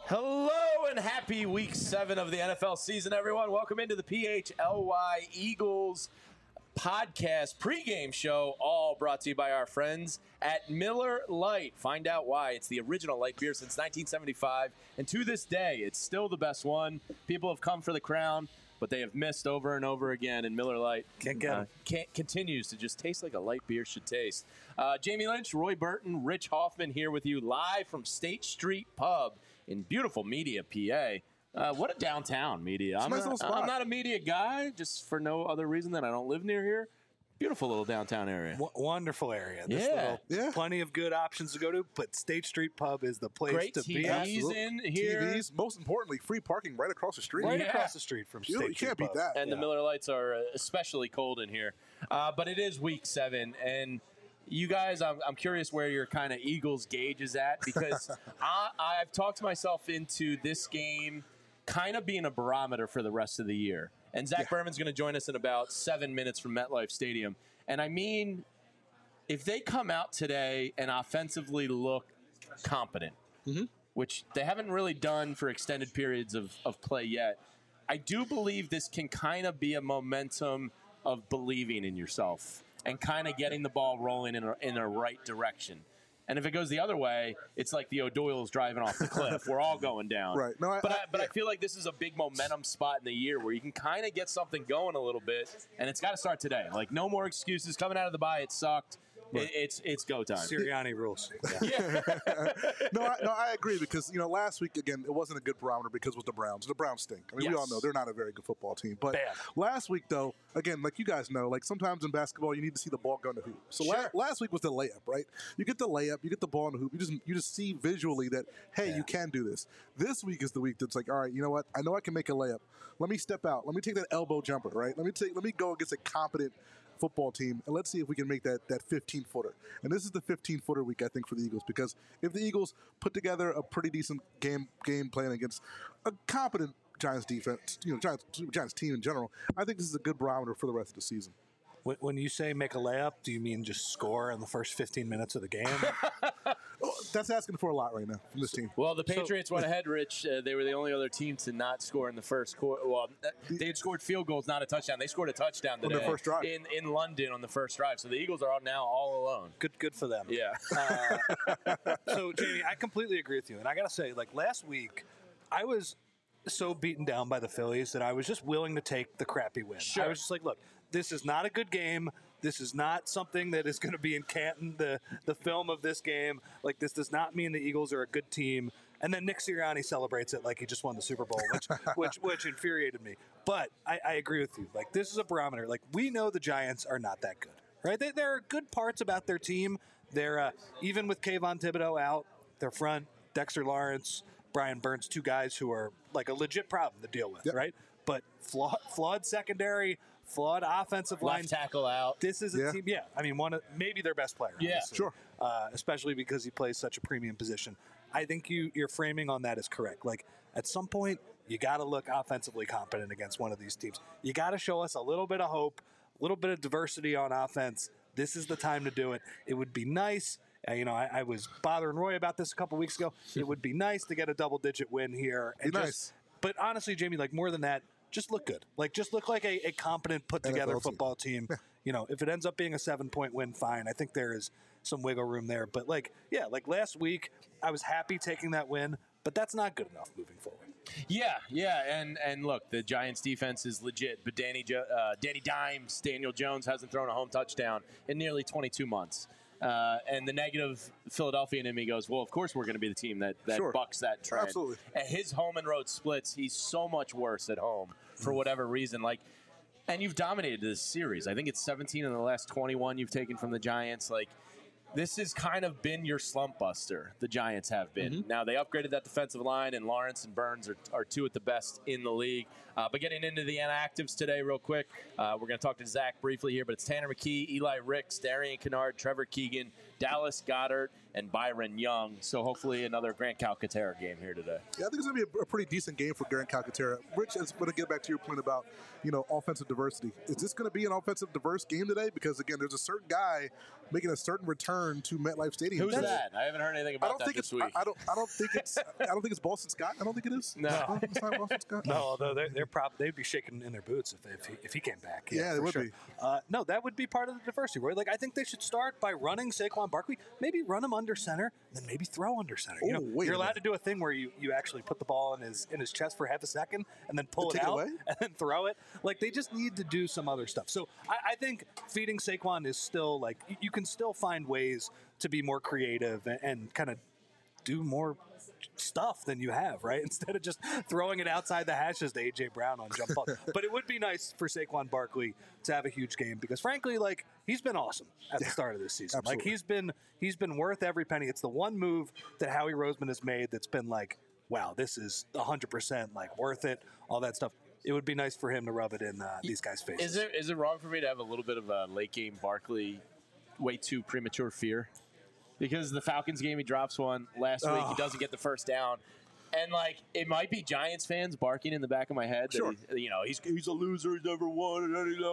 Hello and happy week 7 of the NFL season, everyone. Welcome into the PHLY Eagles podcast pregame show, all brought to you by our friends at Miller Lite. Find out why. It's the original light beer since 1975, and to this day, it's still the best one. People have come for the crown, but they have missed over and over again, and Miller Lite continues to just taste like a light beer should taste. Jamie Lynch, Roy Burton, Rich Hoffman here with you live from State Street Pub in beautiful Media, PA. What a downtown Media. I'm not a Media guy, just for no other reason than I don't live near here. Beautiful little downtown area. Wonderful area. Plenty of good options to go to, but State Street Pub is the place Great to be. TVs in here. TVs, most importantly, free parking right across the street. Right across the street from State Street Pub. You can't beat that. And the Miller Lights are especially cold in here. But it is week 7, and you guys, I'm curious where your kind of Eagles gauge is at, because I've talked myself into this game kind of being a barometer for the rest of the year. And Zach Berman's going to join us in about 7 minutes from MetLife Stadium. And I mean, if they come out today and offensively look competent, which they haven't really done for extended periods of play yet, I do believe this can kind of be a momentum of believing in yourself and kind of getting the ball rolling in a right direction. And if it goes the other way, it's like the O'Doyle's driving off the cliff. We're all going down. Right. No, I feel like this is a big momentum spot in the year where you can kind of get something going a little bit, and it's got to start today. Like, no more excuses. Coming out of the bye, it sucked. Right. It's go time. Sirianni rules. I agree, because last week again it wasn't a good barometer because it was the Browns. The Browns stink. I mean, we all know they're not a very good football team. But last week, though, again, like you guys know, like sometimes in basketball you need to see the ball go in the hoop. So last week was the layup, right? You get the layup, you get the ball in the hoop. You just see visually that you can do this. This week is the week that's like, all right, you know what? I know I can make a layup. Let me step out. Let me take that elbow jumper, right? Let me go against a competent football team, and let's see if we can make that 15-footer. And this is the 15-footer week, I think, for the Eagles, because if the Eagles put together a pretty decent game plan against a competent Giants defense, Giants team in general, I think this is a good barometer for the rest of the season. When you say make a layup, do you mean just score in the first 15 minutes of the game? That's asking for a lot right now from this team. Well, the Patriots went ahead, Rich. They were the only other team to not score in the first quarter. Well, they had scored field goals, not a touchdown. They scored a touchdown today on their first drive in London on the first drive. So the Eagles are now all alone. Good for them. Yeah. So, Jamie, I completely agree with you. And I got to say, like last week, I was so beaten down by the Phillies that I was just willing to take the crappy win. Sure. I was just like, look, this is not a good game. This is not something that is going to be in Canton, the film of this game. Like, this does not mean the Eagles are a good team. And then Nick Sirianni celebrates it like he just won the Super Bowl, which infuriated me. But I agree with you. Like, this is a barometer. Like, we know the Giants are not that good, right? There are good parts about their team. They're even with Kayvon Thibodeau out, their front, Dexter Lawrence, Brian Burns, two guys who are like a legit problem to deal with, right? But flawed secondary, flawed offensive line. Left tackle out. This is a team, I mean, maybe their best player. Yeah, honestly. Sure. Especially because he plays such a premium position. I think your framing on that is correct. Like, at some point, you got to look offensively competent against one of these teams. You got to show us a little bit of hope, a little bit of diversity on offense. This is the time to do it. It would be nice. I was bothering Roy about this a couple weeks ago. It would be nice to get a double-digit win here. And nice. But honestly, Jamie, like more than that, just look good. Like, just look like a competent, put-together football team. If it ends up being a 7-point win, fine. I think there is some wiggle room there. But, like last week, I was happy taking that win, but that's not good enough moving forward. Yeah, and look, the Giants' defense is legit, but Danny Dimes, Daniel Jones, hasn't thrown a home touchdown in nearly 22 months. And the negative Philadelphia in me goes, well, of course we're going to be the team that bucks that trend. Absolutely. And his home and road splits, he's so much worse at home for whatever reason. Like, and you've dominated this series. I think it's 17 in the last 21 you've taken from the Giants. Like, this has kind of been your slump buster, the Giants have been. Now, they upgraded that defensive line, and Lawrence and Burns are two at the best in the league. But getting into the inactives today real quick, we're going to talk to Zach briefly here, but it's Tanner McKee, Eli Ricks, Darian Kennard, Trevor Keegan, Dallas Goedert, and Byron Young. So hopefully another Grant Calcaterra game here today. Yeah, I think it's going to be a pretty decent game for Grant Calcaterra. Rich, is going to get back to your point about, offensive diversity. Is this going to be an offensive diverse game today? Because, again, there's a certain guy making a certain return to MetLife Stadium. Who's that? I haven't heard anything about that this week. I don't think it's Boston Scott. I don't think it is. No. It's not Boston Scott. No, although they'd be shaking in their boots if he came back. Yeah, they would be. No, that would be part of the diversity, Roy. Like, I think they should start by running Saquon Barkley, maybe run him under center, then maybe throw under center. You're allowed to do a thing where you actually put the ball in his chest for half a second and then pull it out and then throw it. Like, they just need to do some other stuff. So I think feeding Saquon is still, like, you can still find ways to be more creative and kind of do more stuff than you have, right? Instead of just throwing it outside the hashes to A.J. Brown on jump ball. But it would be nice for Saquon Barkley to have a huge game because, frankly, like, he's been awesome at the start of this season. Absolutely. Like, he's been worth every penny. It's the one move that Howie Roseman has made that's been like, wow, this is 100% like worth it, all that stuff. It would be nice for him to rub it in these guys' faces. Is it wrong for me to have a little bit of a late game Barkley way too premature fear? Because the Falcons game, he drops one last week. He doesn't get the first down. And, like, it might be Giants fans barking in the back of my head that, he's a loser. He's never won.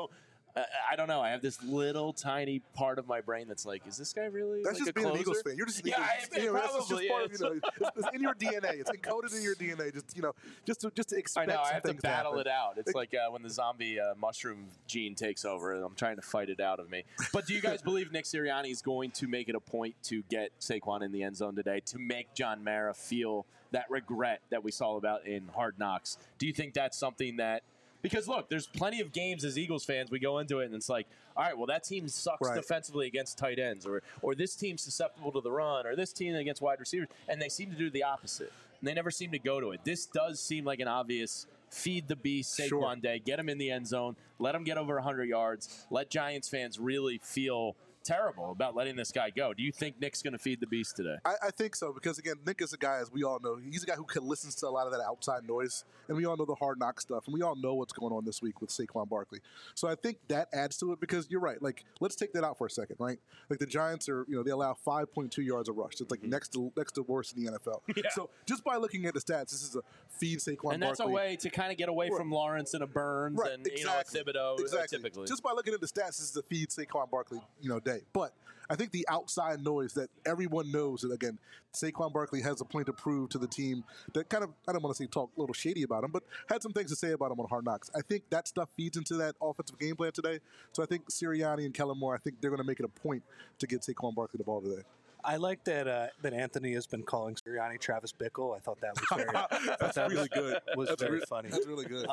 I don't know. I have this little tiny part of my brain that's like, is this guy really That's like just a being closer? an Eagles fan. You're just an Eagles fan. That's just part of, it's in your DNA. It's encoded in your DNA. Just to expect. I know. I have to battle happen. it out. It's like when the zombie mushroom gene takes over. I'm trying to fight it out of me. But do you guys believe Nick Sirianni is going to make it a point to get Saquon in the end zone today to make John Mara feel that regret that we saw about in Hard Knocks? Do you think that's something that? Because, look, there's plenty of games as Eagles fans, we go into it and it's like, all right, well, that team sucks defensively against tight ends, or this team's susceptible to the run, or this team against wide receivers, and they seem to do the opposite. And they never seem to go to it. This does seem like an obvious feed the beast Saquon day, get him in the end zone, let him get over 100 yards, let Giants fans really feel terrible about letting this guy go. Do you think Nick's going to feed the beast today? I think so because, again, Nick is a guy, as we all know, he's a guy who listens to a lot of that outside noise, and we all know the Hard Knock stuff, and we all know what's going on this week with Saquon Barkley. So I think that adds to it because you're right. Like, let's take that out for a second, right? Like, the Giants are, they allow 5.2 yards a rush. It's like next to worst in the NFL. Yeah. So just by looking at the stats, this is a feed Saquon Barkley. And that's a way to kind of get away from Lawrence and a Burns and, a Thibodeau typically. Just by looking at the stats, this is a feed Saquon Barkley, day. But I think the outside noise that everyone knows that, again, Saquon Barkley has a point to prove to the team that kind of, I don't want to say talk a little shady about him, but had some things to say about him on Hard Knocks. I think that stuff feeds into that offensive game plan today. So I think Sirianni and Kellen Moore, I think they're going to make it a point to get Saquon Barkley the ball today. I like that Anthony has been calling Sirianni Travis Bickle. I thought that was very that's really good. Was very funny. That's really good.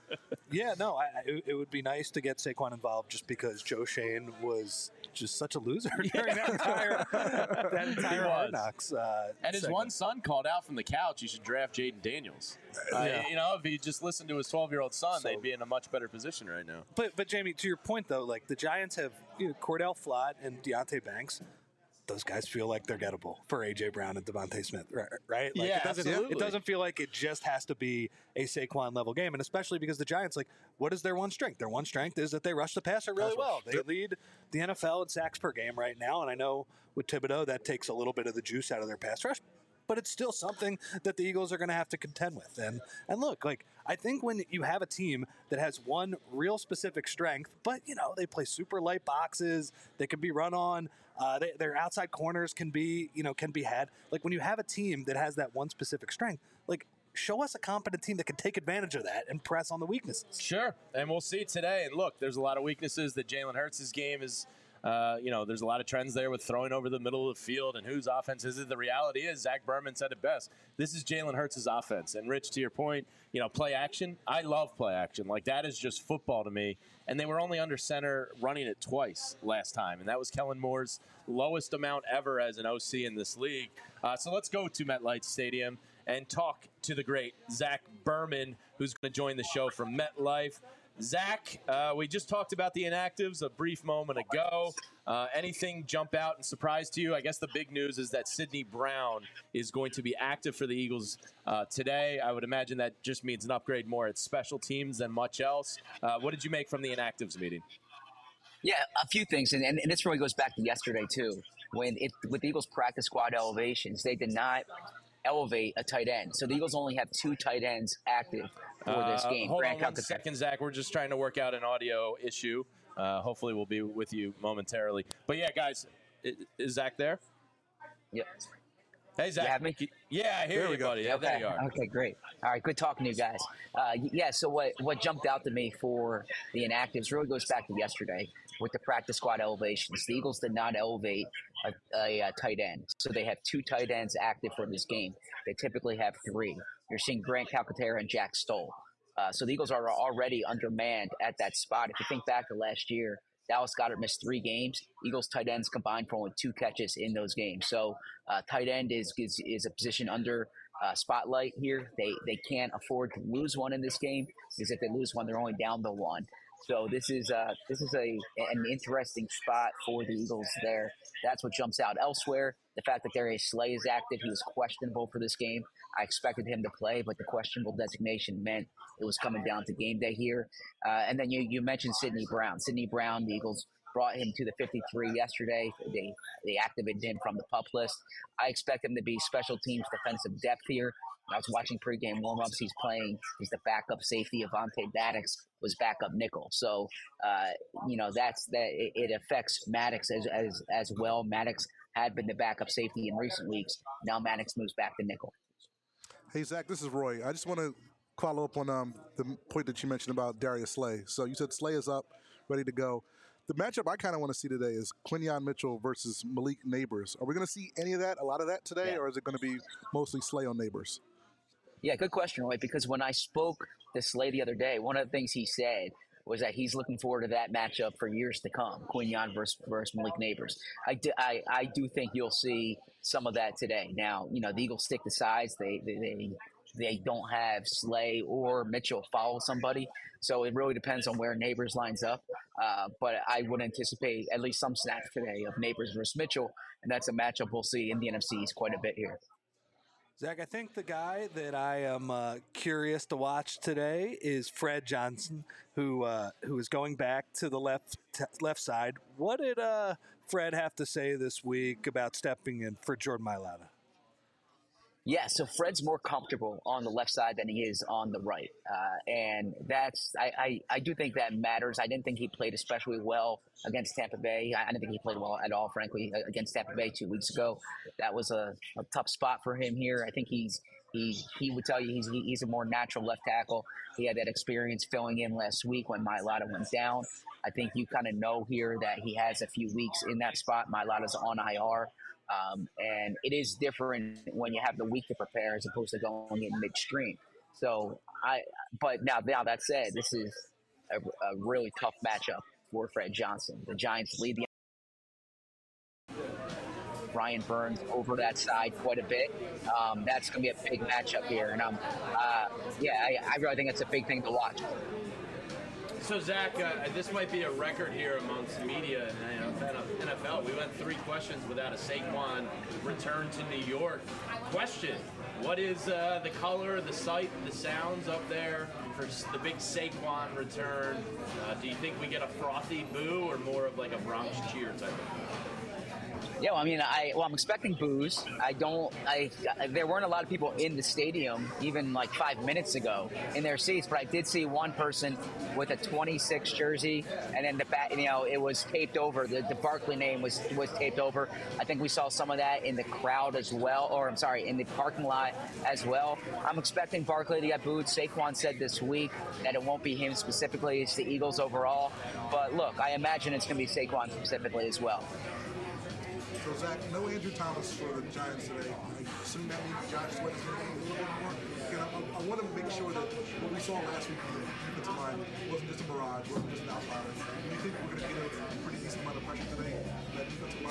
It would be nice to get Saquon involved just because Joe Shane was just such a loser during that entire Hard Knocks. And his one son called out from the couch, you should draft Jaden Daniels. If he just listened to his 12-year-old son, they'd be in a much better position right now. But Jamie, to your point though, like the Giants have Cordell Flott and Deonte Banks. Those guys feel like they're gettable for A.J. Brown and Devontae Smith, right? Like, absolutely. It doesn't feel like it just has to be a Saquon-level game, and especially because the Giants, like, what is their one strength? Their one strength is that they rush the passer really well. They lead the NFL in sacks per game right now, and I know with Thibodeau that takes a little bit of the juice out of their pass rush, but it's still something that the Eagles are going to have to contend with. And look, like, I think when you have a team that has one real specific strength, but, they play super light boxes, they can be run on, their outside corners can be had. Like, when you have a team that has that one specific strength, like, show us a competent team that can take advantage of that and press on the weaknesses. Sure, and we'll see today. And look, there's a lot of weaknesses that Jalen Hurts' game is. There's a lot of trends there with throwing over the middle of the field and whose offense is it. The reality is, Zach Berman said it best. This is Jalen Hurts' offense. And, Rich, to your point, play action. I love play action. Like, that is just football to me. And they were only under center running it twice last time. And that was Kellen Moore's lowest amount ever as an OC in this league. So let's go to MetLife Stadium and talk to the great Zach Berman, who's going to join the show from MetLife. Zach, we just talked about the inactives a brief moment ago. Anything jump out and surprise to you? I guess the big news is that Sidney Brown is going to be active for the Eagles today. I would imagine that just means an upgrade more at special teams than much else. What did you make from the inactives meeting? Yeah, a few things, and this really goes back to yesterday, too. with the Eagles practice squad elevations, they did not elevate a tight end. So the Eagles only have 2 tight ends active for this game. Hold on 1 second, Zach. We're just trying to work out an audio issue. Hopefully we'll be with you momentarily. But yeah, guys, is Zach there? Yep. Hey, Zach. You have me? Yeah, I hear you, buddy. Okay. There you are. Okay, great. All right, good talking to you guys. So what jumped out to me for the inactives really goes back to yesterday with the practice squad elevations. The Eagles did not elevate a tight end. So they have 2 tight ends active for this game. They typically have 3. You're seeing Grant Calcaterra and Jack Stoll. So the Eagles are already undermanned at that spot. If you think back to last year, Dallas Goedert missed 3 games. Eagles tight ends combined for only 2 catches in those games. So tight end is a position under spotlight here. They can't afford to lose one in this game because if they lose one, they're only down the 1. So this is an interesting spot for the Eagles there. That's what jumps out. Elsewhere, the fact that Darius Slay is active, he was questionable for this game. I expected him to play, but the questionable designation meant it was coming down to game day here. And then you mentioned Sidney Brown. Sidney Brown, the Eagles brought him to the 53 yesterday. They activated him from the PUP list. I expect him to be special teams defensive depth here. I was watching pregame warmups. He's playing. He's the backup safety. Avonte Maddox was backup nickel. So, it affects Maddox as well. Maddox had been the backup safety in recent weeks. Now Maddox moves back to nickel. Hey, Zach, this is Roy. I just want to follow up on the point that you mentioned about Darius Slay. So you said Slay is up, ready to go. The matchup I kind of want to see today is Quinyon Mitchell versus Malik Neighbors. Are we going to see any of that, a lot of that today, or is it going to be mostly Slay on Neighbors? Yeah, good question, Roy, because when I spoke to Slay the other day, one of the things he said was that he's looking forward to that matchup for years to come, Quinyon versus Malik Neighbors. I do think you'll see some of that today. Now, the Eagles stick to size. They don't have Slay or Mitchell follow somebody, so it really depends on where Neighbors lines up. But I would anticipate at least some snaps today of Neighbors versus Mitchell, and that's a matchup we'll see in the NFC East quite a bit here. Zach, I think the guy that I am curious to watch today is Fred Johnson, who is going back to the left side. What did Fred have to say this week about stepping in for Jordan Mailata? Yeah, so Fred's more comfortable on the left side than he is on the right. And that's I do think that matters. I didn't think he played especially well against Tampa Bay. I didn't think he played well at all, frankly, against Tampa Bay 2 weeks ago. That was a tough spot for him here. I think he would tell you he's a more natural left tackle. He had that experience filling in last week when Mailata went down. I think you kind of know here that he has a few weeks in that spot. Mailata's on IR. And it is different when you have the week to prepare as opposed to going in midstream. So but now that said, this is a really tough matchup for Fred Johnson. The Giants lead the Brian Burns over that side quite a bit. That's going to be a big matchup here. And I really think it's a big thing to watch. So, Zach, this might be a record here amongst media and NFL. We went 3 questions without a Saquon return to New York. Question, what is the color, the sight, the sounds up there for the big Saquon return? Do you think we get a frothy boo or more of like a Bronx cheer type of boo? Yeah, I'm expecting boos. There weren't a lot of people in the stadium even like 5 minutes ago in their seats, but I did see one person with a 26 jersey, and then the back, it was taped over. The Barkley name was taped over. I think we saw some of that in the crowd as well, in the parking lot as well. I'm expecting Barkley to get booed. Saquon said this week that it won't be him specifically; it's the Eagles overall. But look, I imagine it's going to be Saquon specifically as well. So, Zach, no Andrew Thomas for the Giants today. I assume that means Josh Sweat is going to be a little bit more. Again, I want to make sure that what we saw last week from the defensive line wasn't just a mirage, wasn't just an outlier. Do you think we're going to get a pretty decent amount of pressure today from that defensive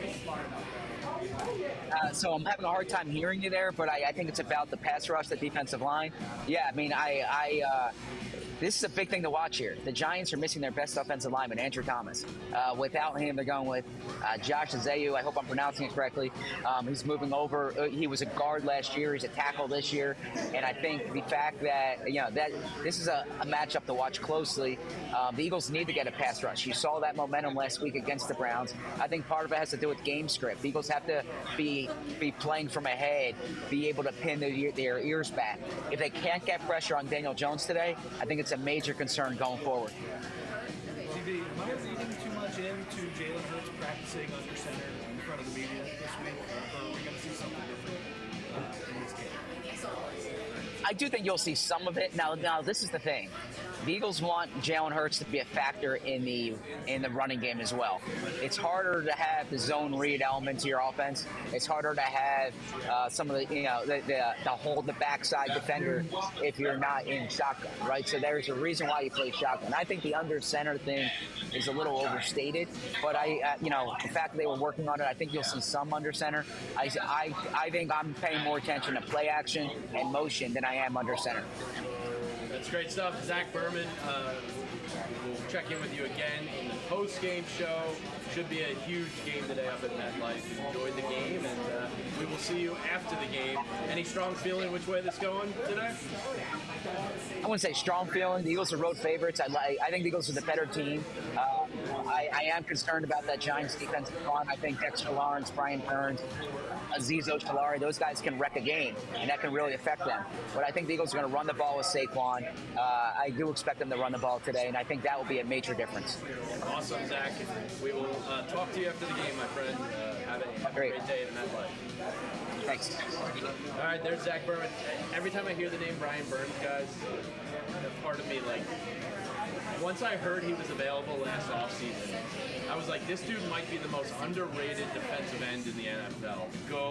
line? So I'm having a hard time hearing you there, but I think it's about the pass rush, the defensive line. Yeah, this is a big thing to watch here. The Giants are missing their best offensive lineman, Andrew Thomas. Without him, they're going with Josh Azeyu. I hope I'm pronouncing it correctly. He's moving over. He was a guard last year. He's a tackle this year. And I think the fact that, that this is a matchup to watch closely. The Eagles need to get a pass rush. You saw that momentum last week against the Browns. I think part of it has to do with game script. The Eagles have to be playing from ahead, be able to pin their ears back. If they can't get pressure on Daniel Jones today, I think it's a major concern going forward. TV, am I reading too much into Jalen Hurts practicing under center in front of the media this week, or are we going to see something different in this game? I do think you'll see some of it. Now, this is the thing. The Eagles want Jalen Hurts to be a factor in the running game as well. It's harder to have the zone read element to your offense. It's harder to have some of the the hold the backside defender if you're not in shotgun, right? So there's a reason why you play shotgun. I think the under center thing is a little overstated, but the fact that they were working on it, I think you'll see some under center. I think I'm paying more attention to play action and motion than I am under center. That's great stuff. Zach Berman, we'll check in with you again in the post-game show. Should be a huge game today up at MetLife. Enjoyed the game, and we will see you after the game. Any strong feeling which way this going today? I wouldn't say strong feeling. The Eagles are road favorites. I think the Eagles are the better team. I am concerned about that Giants defensive front. I think Dexter Lawrence, Brian Burns, Azeez Ojulari, those guys can wreck a game, and that can really affect them. But I think the Eagles are going to run the ball with Saquon. I do expect them to run the ball today, and I think that will be a major difference. Awesome, Zach. We will talk to you after the game, my friend. Have a great day at MetLife. Thanks. All right, there's Zach Berman. Every time I hear the name Brian Burns, guys, part of me, once I heard he was available last offseason, I was like, this dude might be the most underrated defensive end in the NFL.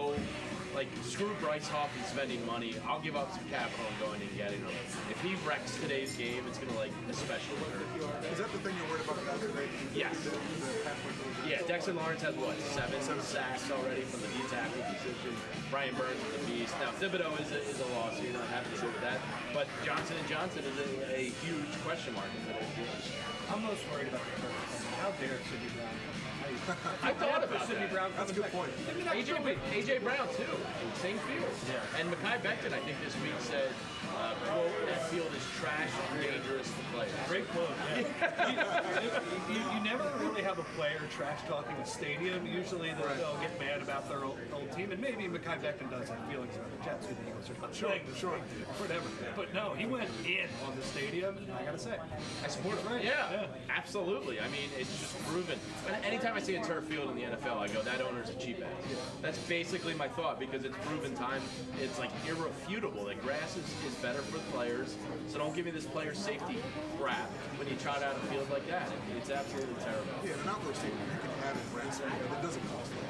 Screw Bryce Hoff and spending money. I'll give up some capital and going and getting him. If he wrecks today's game, it's going to, especially hurt. Is that the thing you're worried about the passer rate? Yes. Yeah, Dexter Lawrence has, 7 sacks already from the D-tackle position. Brian Burns is a beast. Now, Thibodeau is a loss, so you're not happy to do with that. But Johnson & Johnson is a huge question mark in today's game. I'm most worried about the first one. How dare Sidney Brown? I thought about Sidney Brown. That's a good point. AJ Brown too, same field. Yeah. And Mekhi Becton, I think this week said, "quote that field is trash and dangerous to play." Great quote. Yeah. you never really have a player trash talking a stadium. Usually they'll get mad about their old team, and maybe Mekhi Becton does have feelings about the Jets who the Eagles are not playing this week, whatever. But no, he went in on the stadium, and I gotta say, I support it. Right. Yeah, absolutely. I mean, it's just proven. And anytime I see a turf field in the NFL, I go, that owner's a cheap ass. That's basically my thought, because it's proven time. It's irrefutable that grass is better for the players. So don't give me this player safety crap when you trot out a field like that. It's absolutely terrible. Yeah, an outdoor stadium, you can have it grass, but it doesn't cost a lot.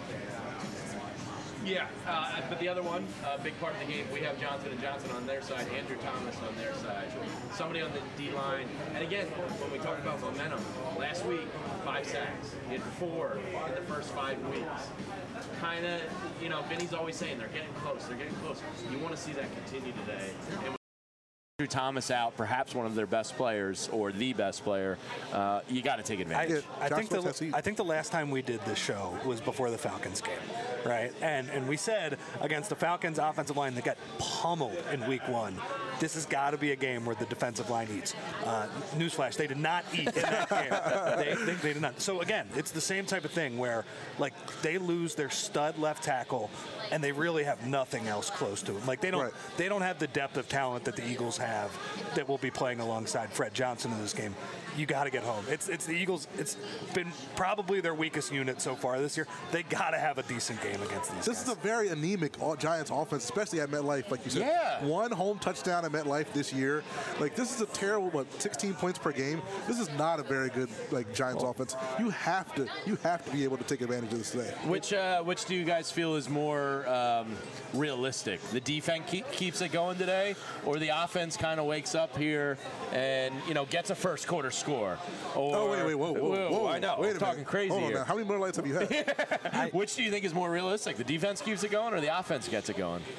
Yeah, but the other one, big part of the game, we have Johnson & Johnson on their side, Andrew Thomas on their side, somebody on the D-line. And again, when we talk about momentum, last week, 5 sacks. He had 4 in the first 5 weeks. Kind of, Vinny's always saying they're getting close, You want to see that continue today. And Andrew Thomas out, perhaps one of their best players or the best player, you got to take advantage. I think the last time we did this show was before the Falcons game, right? And we said against the Falcons offensive line that got pummeled in week 1, this has got to be a game where the defensive line eats. Newsflash, they did not eat in that game. They did not. So again, it's the same type of thing where they lose their stud left tackle and they really have nothing else close to him. They don't have the depth of talent that the Eagles have that will be playing alongside Fred Johnson in this game. You got to get home. It's the Eagles. It's been probably their weakest unit so far this year. They got to have a decent game against these guys. This is a very anemic Giants offense, especially at MetLife, like you said. Yeah. 1 home touchdown at MetLife this year. This is a terrible, 16 points per game. This is not a very good Giants offense. You have to be able to take advantage of this today. Which do you guys feel is more realistic? The defense keeps it going today, or the offense kind of wakes up here and gets a first quarter score? Or, whoa! I know, I'm talking crazy Hold on here. now. How many more lights have you had? Which do you think is more realistic? The defense keeps it going, or the offense gets it going?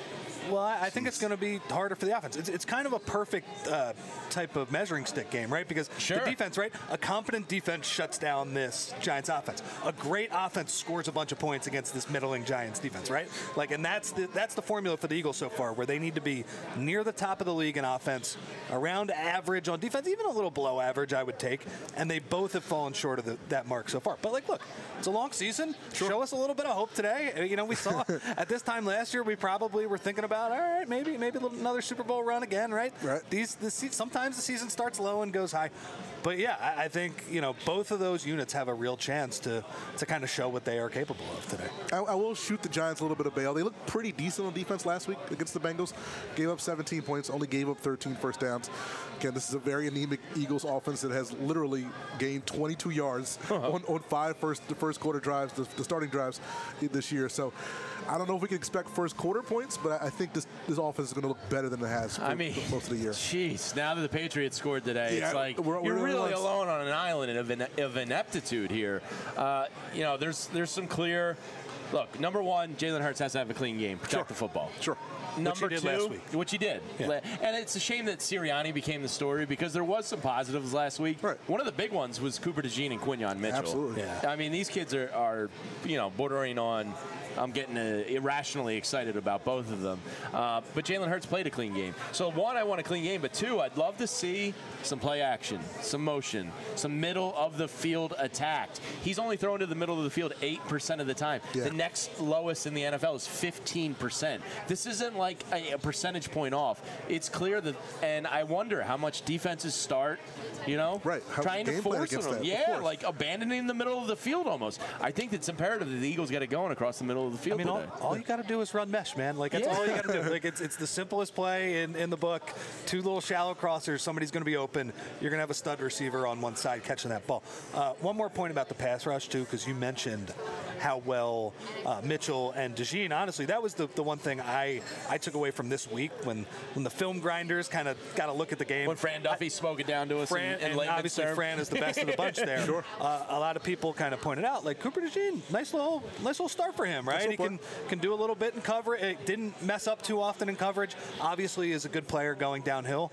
Well, I think it's going to be harder for the offense. It's kind of a perfect type of measuring stick game, right? Because the defense, right? A competent defense shuts down this Giants offense. A great offense scores a bunch of points against this middling Giants defense, right? Like, and that's the formula for the Eagles so far, where they need to be near the top of the league in offense, around average on defense, even a little below average, I would take. And they both have fallen short of that mark so far. But, like, look, it's a long season. Show us a little bit of hope today. You know, we saw at this time last year, we probably were thinking about, all right, maybe another Super Bowl run again, right? Right. Sometimes the season starts low and goes high. But, yeah, I think, you know, both of those units have a real chance to kind of show what they are capable of today. I will shoot the Giants a little bit of bail. They looked pretty decent on defense last week against the Bengals. Gave up 17 points, only gave up 13 first downs. Again, this is a very anemic Eagles offense that has literally gained 22 yards on 5 first quarter drives, the starting drives this year. So I don't know if we can expect first quarter points, but I think this offense is going to look better than it has for most of the year. Jeez, now that the Patriots scored today, it's like you're really alone on an island of ineptitude here. You know, there's some clear. Look, number one, Jalen Hurts has to have a clean game, protect the football. Sure. Number which two, last week. which he did. Yeah. And it's a shame that Sirianni became the story because there was some positives last week. Right. One of the big ones was Cooper DeJean and Quinyon Mitchell. Absolutely. Yeah. I mean, these kids are you know, bordering on. I'm getting irrationally excited about both of them. But Jalen Hurts played a clean game. So, one, I want a clean game. But, two, I'd love to see some play action, some motion, some middle-of-the-field attack. He's only thrown to the middle of the field 8% of the time. Yeah. The next lowest in the NFL is 15%. This isn't like a percentage point off. It's clear that – and I wonder how much defenses start, you know, trying to force them. Yeah, like abandoning the middle of the field almost. I think it's imperative that the Eagles get it going across the middle of the field. I mean, all you got to do is run mesh, man. Like, that's all you got to do. Like, it's the simplest play in the book. 2 little shallow crossers. Somebody's going to be open. You're going to have a stud receiver on one side catching that ball. One more point about the pass rush, too, because you mentioned how well Mitchell and DeJean, honestly, that was the one thing I took away from this week when the film grinders kind of got to look at the game. When Fran Duffy spoke it down to us and obviously term. Fran is the best of the bunch there. Sure. A lot of people kind of pointed out, like, Cooper DeJean, nice little start for him, right? He can do a little bit in cover. It didn't mess up too often in coverage. Obviously is a good player going downhill.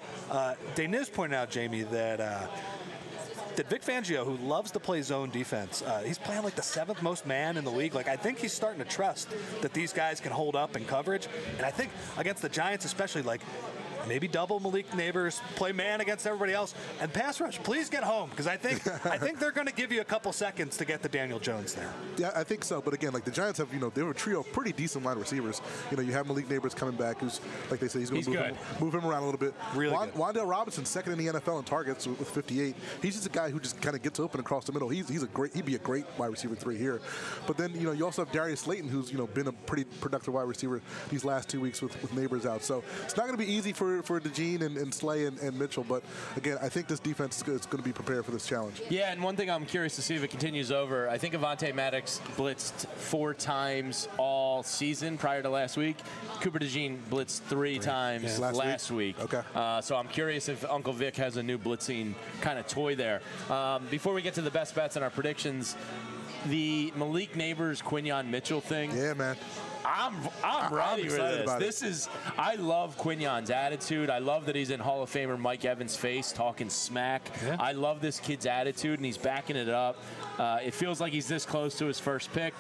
Deniz pointed out, Jamie, that Vic Fangio, who loves to play zone defense, he's playing like the 7th most man in the league. Like, I think he's starting to trust that these guys can hold up in coverage. And I think against the Giants especially, like, maybe double Malik Neighbors, play man against everybody else, and pass rush. Please get home, because I think they're going to give you a couple seconds to get the Daniel Jones there. Yeah, I think so. But again, like, the Giants have, you know, they have a trio of pretty decent wide receivers. You know, you have Malik Neighbors coming back, who's, like they say, he's going to move him around a little bit. Really good. Wan'Dale Robinson, second in the NFL in targets with 58. He's just a guy who just kind of gets open across the middle. He'd be a great wide receiver 3 here. But then, you know, you also have Darius Slayton, who's, you know, been a pretty productive wide receiver these last 2 weeks with Neighbors out. So it's not going to be easy for DeJean and Slay and Mitchell, but again, I think this defense is going to be prepared for this challenge. Yeah, and one thing I'm curious to see if it continues over, I think Avonte Maddox blitzed 4 times all season prior to last week. Cooper DeJean blitzed 3 times last week. Okay. So I'm curious if Uncle Vic has a new blitzing kind of toy there. Before we get to the best bets and our predictions, the Malik Neighbors, Quinyon Mitchell thing. Yeah, man. I'm ready for this. I love Quinyon's attitude. I love that he's in Hall of Famer Mike Evans' face talking smack. Yeah. I love this kid's attitude, and he's backing it up. It feels like he's this close to his first pick.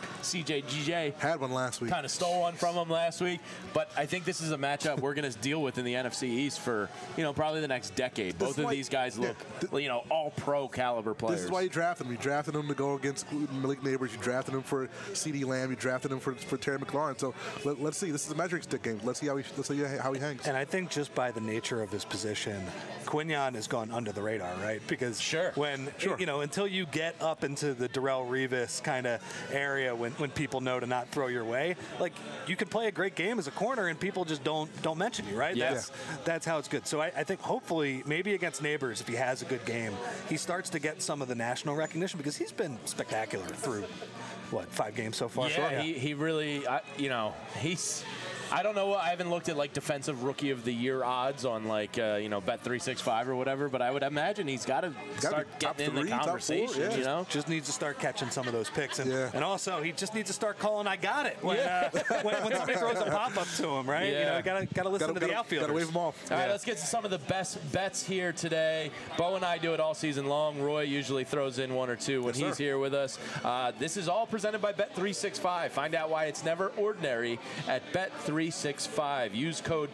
CJ had one last week. Kind of stole one from him last week. But I think this is a matchup we're going to deal with in the NFC East for, you know, probably the next decade. Both of these guys look, you know, all pro caliber players. This is why you drafted him. You drafted him to go against Malik Neighbors. You drafted him for CeeDee Lamb. You drafted him for Terry McLaurin. So let's see. This is a measuring stick game. Let's see how he hangs. And I think just by the nature of his position, Quinyon has gone under the radar, right? Because you know, until you get up into the Darrelle Revis kind of area when people know to not throw your way, like, you can play a great game as a corner and people just don't mention you, right? Yeah. That's how it's good. So I think hopefully maybe against Neighbors, if he has a good game, he starts to get some of the national recognition because he's been spectacular through 5 games so far? Yeah, he really, you know, he's I don't know. I haven't looked at like defensive rookie of the year odds on like Bet365 or whatever, but I would imagine he's got to start getting in the conversation. Yeah. You know, just needs to start catching some of those picks, and also he just needs to start calling "I got it" when somebody throws a pop up to him, right? Yeah. Got to listen to the outfielders. Got to wave them off. All right, let's get to some of the best bets here today. Bo and I do it all season long. Roy usually throws in one or two when he's here with us. This is all presented by Bet365. Find out why it's never ordinary at Bet365. Use code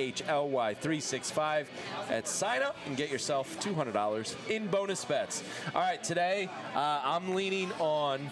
PHLY365 at sign up and get yourself $200 in bonus bets. All right, today I'm leaning on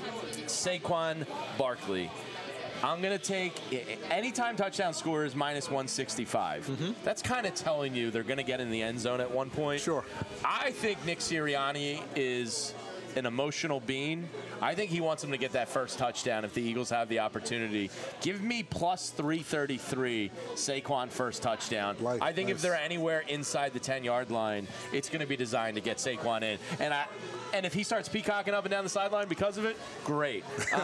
Saquon Barkley. I'm going to take anytime touchdown score is minus 165. Mm-hmm. That's kind of telling you they're going to get in the end zone at one point. Sure. I think Nick Sirianni is an emotional being. I think he wants him to get that first touchdown if the Eagles have the opportunity. Give me plus 333 Saquon first touchdown. I think if they're anywhere inside the 10-yard line, it's going to be designed to get Saquon in. And if he starts peacocking up and down the sideline because of it, great.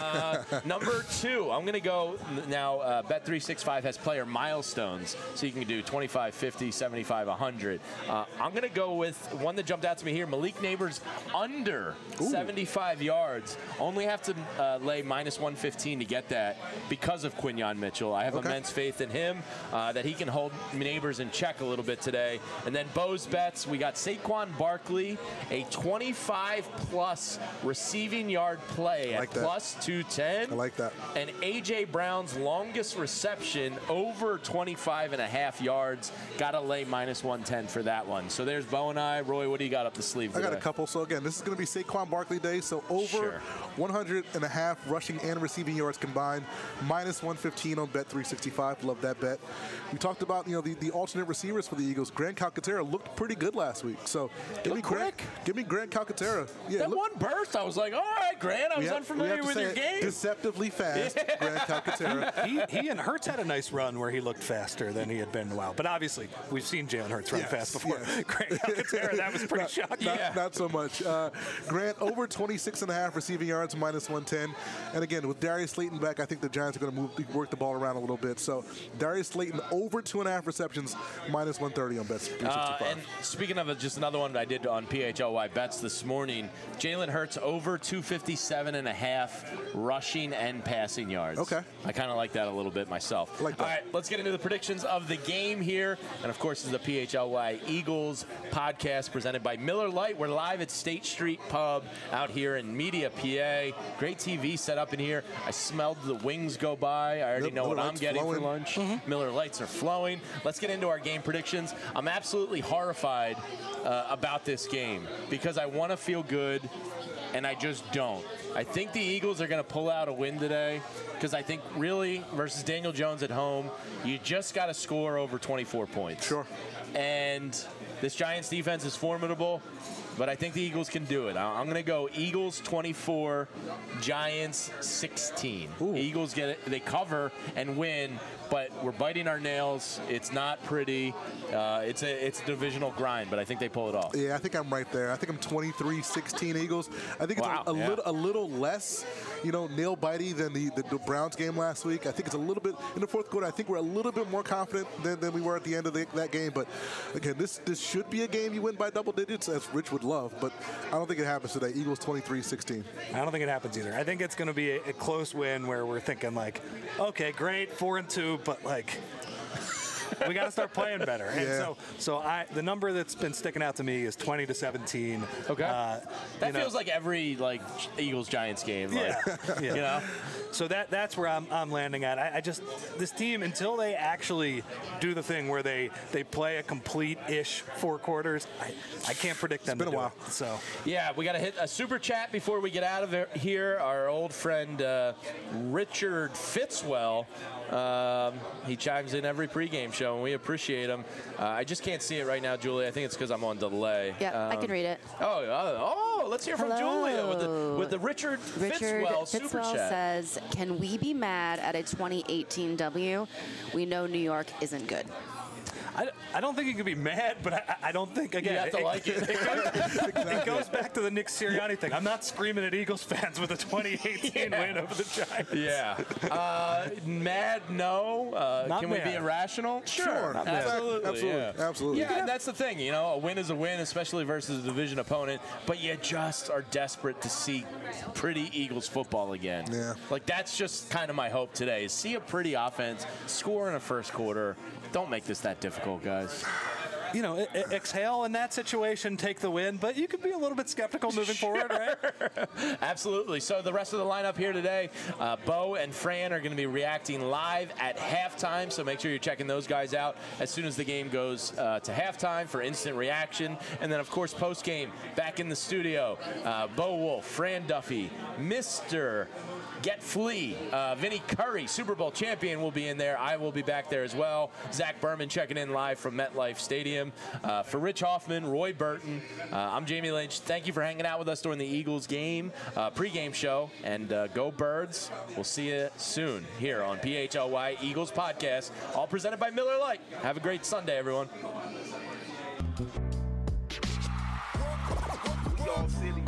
Number 2, I'm going to go now. Bet365 has player milestones, so you can do 25, 50, 75, 100. I'm going to go with one that jumped out to me here. Malik Neighbors under 75 yards. Only have to lay minus 115 to get that because of Quinyon Mitchell. I have immense faith in him that he can hold Neighbors in check a little bit today. And then Bo's bets, we got Saquon Barkley, a 25-plus receiving yard play at plus 210. I like that. And A.J. Brown's longest reception over 25.5 yards. Got to lay minus 110 for that one. So there's Bo and I. Roy, what do you got up the sleeve today? I got a couple. So, again, this is going to be Saquon Barkley Day. So over 100.5 rushing and receiving yards combined. Minus 115 on Bet365. Love that bet. We talked about, the alternate receivers for the Eagles. Grant Calcaterra looked pretty good last week. So give me Grant Calcaterra. Yeah, that one burst, I was like, all right, Grant, I was unfamiliar with your game. Deceptively fast, Grant Calcaterra. He and Hurts had a nice run where he looked faster than he had been in a while. But obviously, we've seen Jalen Hurts run fast before. Grant Calcaterra, that was pretty shocking. Not so much. Grant over 26.5 receiving yards, minus 110. And again, with Darius Slayton back, I think the Giants are going to work the ball around a little bit. So Darius Slayton over 2.5 receptions, minus 130 on Bet365. And speaking of just another one that I did on PHLY bets this morning, Jalen Hurts over 257.5 rushing and passing yards. Okay. I kind of like that a little bit myself. I like that. All right, let's get into the predictions of the game here. And, of course, this is the PHLY Eagles podcast presented by Miller Lite. We're live at State Street Pub out here in Media, PA. Great TV set up in here. I smelled the wings go by. I already know what I'm getting for lunch. Mm-hmm. Miller Lights are flowing. Let's get into our game predictions. I'm absolutely horrified about this game because I want to feel good, and I just don't. I think the Eagles are going to pull out a win today because I think really versus Daniel Jones at home, you just got to score over 24 points. Sure. And this Giants defense is formidable, but I think the Eagles can do it. I'm going to go Eagles 24, Giants 16. Ooh. Eagles get it. They cover and win, but we're biting our nails. It's not pretty. It's a divisional grind, but I think they pull it off. Yeah, I think I'm right there. I think I'm 23-16 Eagles. I think it's a little less, nail-bitey than the Browns game last week. I think it's a little bit in the fourth quarter. I think we're a little bit more confident than we were at the end of that game. But again, this should be a game you win by double digits, as Rich would love. But I don't think it happens today. Eagles 23-16. I don't think it happens either. I think it's going to be a close win where we're thinking like, okay, great, 4-2, but like. We got to start playing better. And so the number that's been sticking out to me is 20-17. Okay. That feels like every Eagles Giants game. So that's where I'm landing at. I just this team, until they actually do the thing where they play a complete-ish 4 quarters, I can't predict them. It's been a while. So yeah, we got to hit a super chat before we get out of here. Our old friend Richard Fitzwell, he chimes in every pregame show, and we appreciate him. I just can't see it right now, Julia. I think it's because I'm on delay. Yeah, I can read it. Let's hear from Julia with the Richard Fitzwell super chat. Says, can we be mad at a 2018 W? We know New York isn't good. I don't think you can be mad, but I don't think, again, You have to like it. It goes back to the Nick Sirianni thing. I'm not screaming at Eagles fans with a 2018 win over the Giants. Yeah. Mad, no. Can we be mad. irrational? Sure. Absolutely. Absolutely. Yeah, and that's the thing. A win is a win, especially versus a division opponent. But you just are desperate to see pretty Eagles football again. Yeah. Like, that's just kind of my hope today, is see a pretty offense, score in a first quarter. Don't make this that difficult, guys. Exhale in that situation, take the win, but you could be a little bit skeptical moving forward, right? Absolutely. So the rest of the lineup here today, Bo and Fran are going to be reacting live at halftime, so make sure you're checking those guys out as soon as the game goes to halftime for instant reaction. And then, of course, post-game, back in the studio, Bo Wolf, Fran Duffy, Mr. Get Flea, Vinny Curry, Super Bowl champion, will be in there. I will be back there as well. Zach Berman checking in live from MetLife Stadium. For Rich Hoffman, Roy Burton, I'm Jamie Lynch. Thank you for hanging out with us during the Eagles game, pregame show, and go Birds. We'll see you soon here on PHLY Eagles Podcast, all presented by Miller Lite. Have a great Sunday, everyone. We all silly.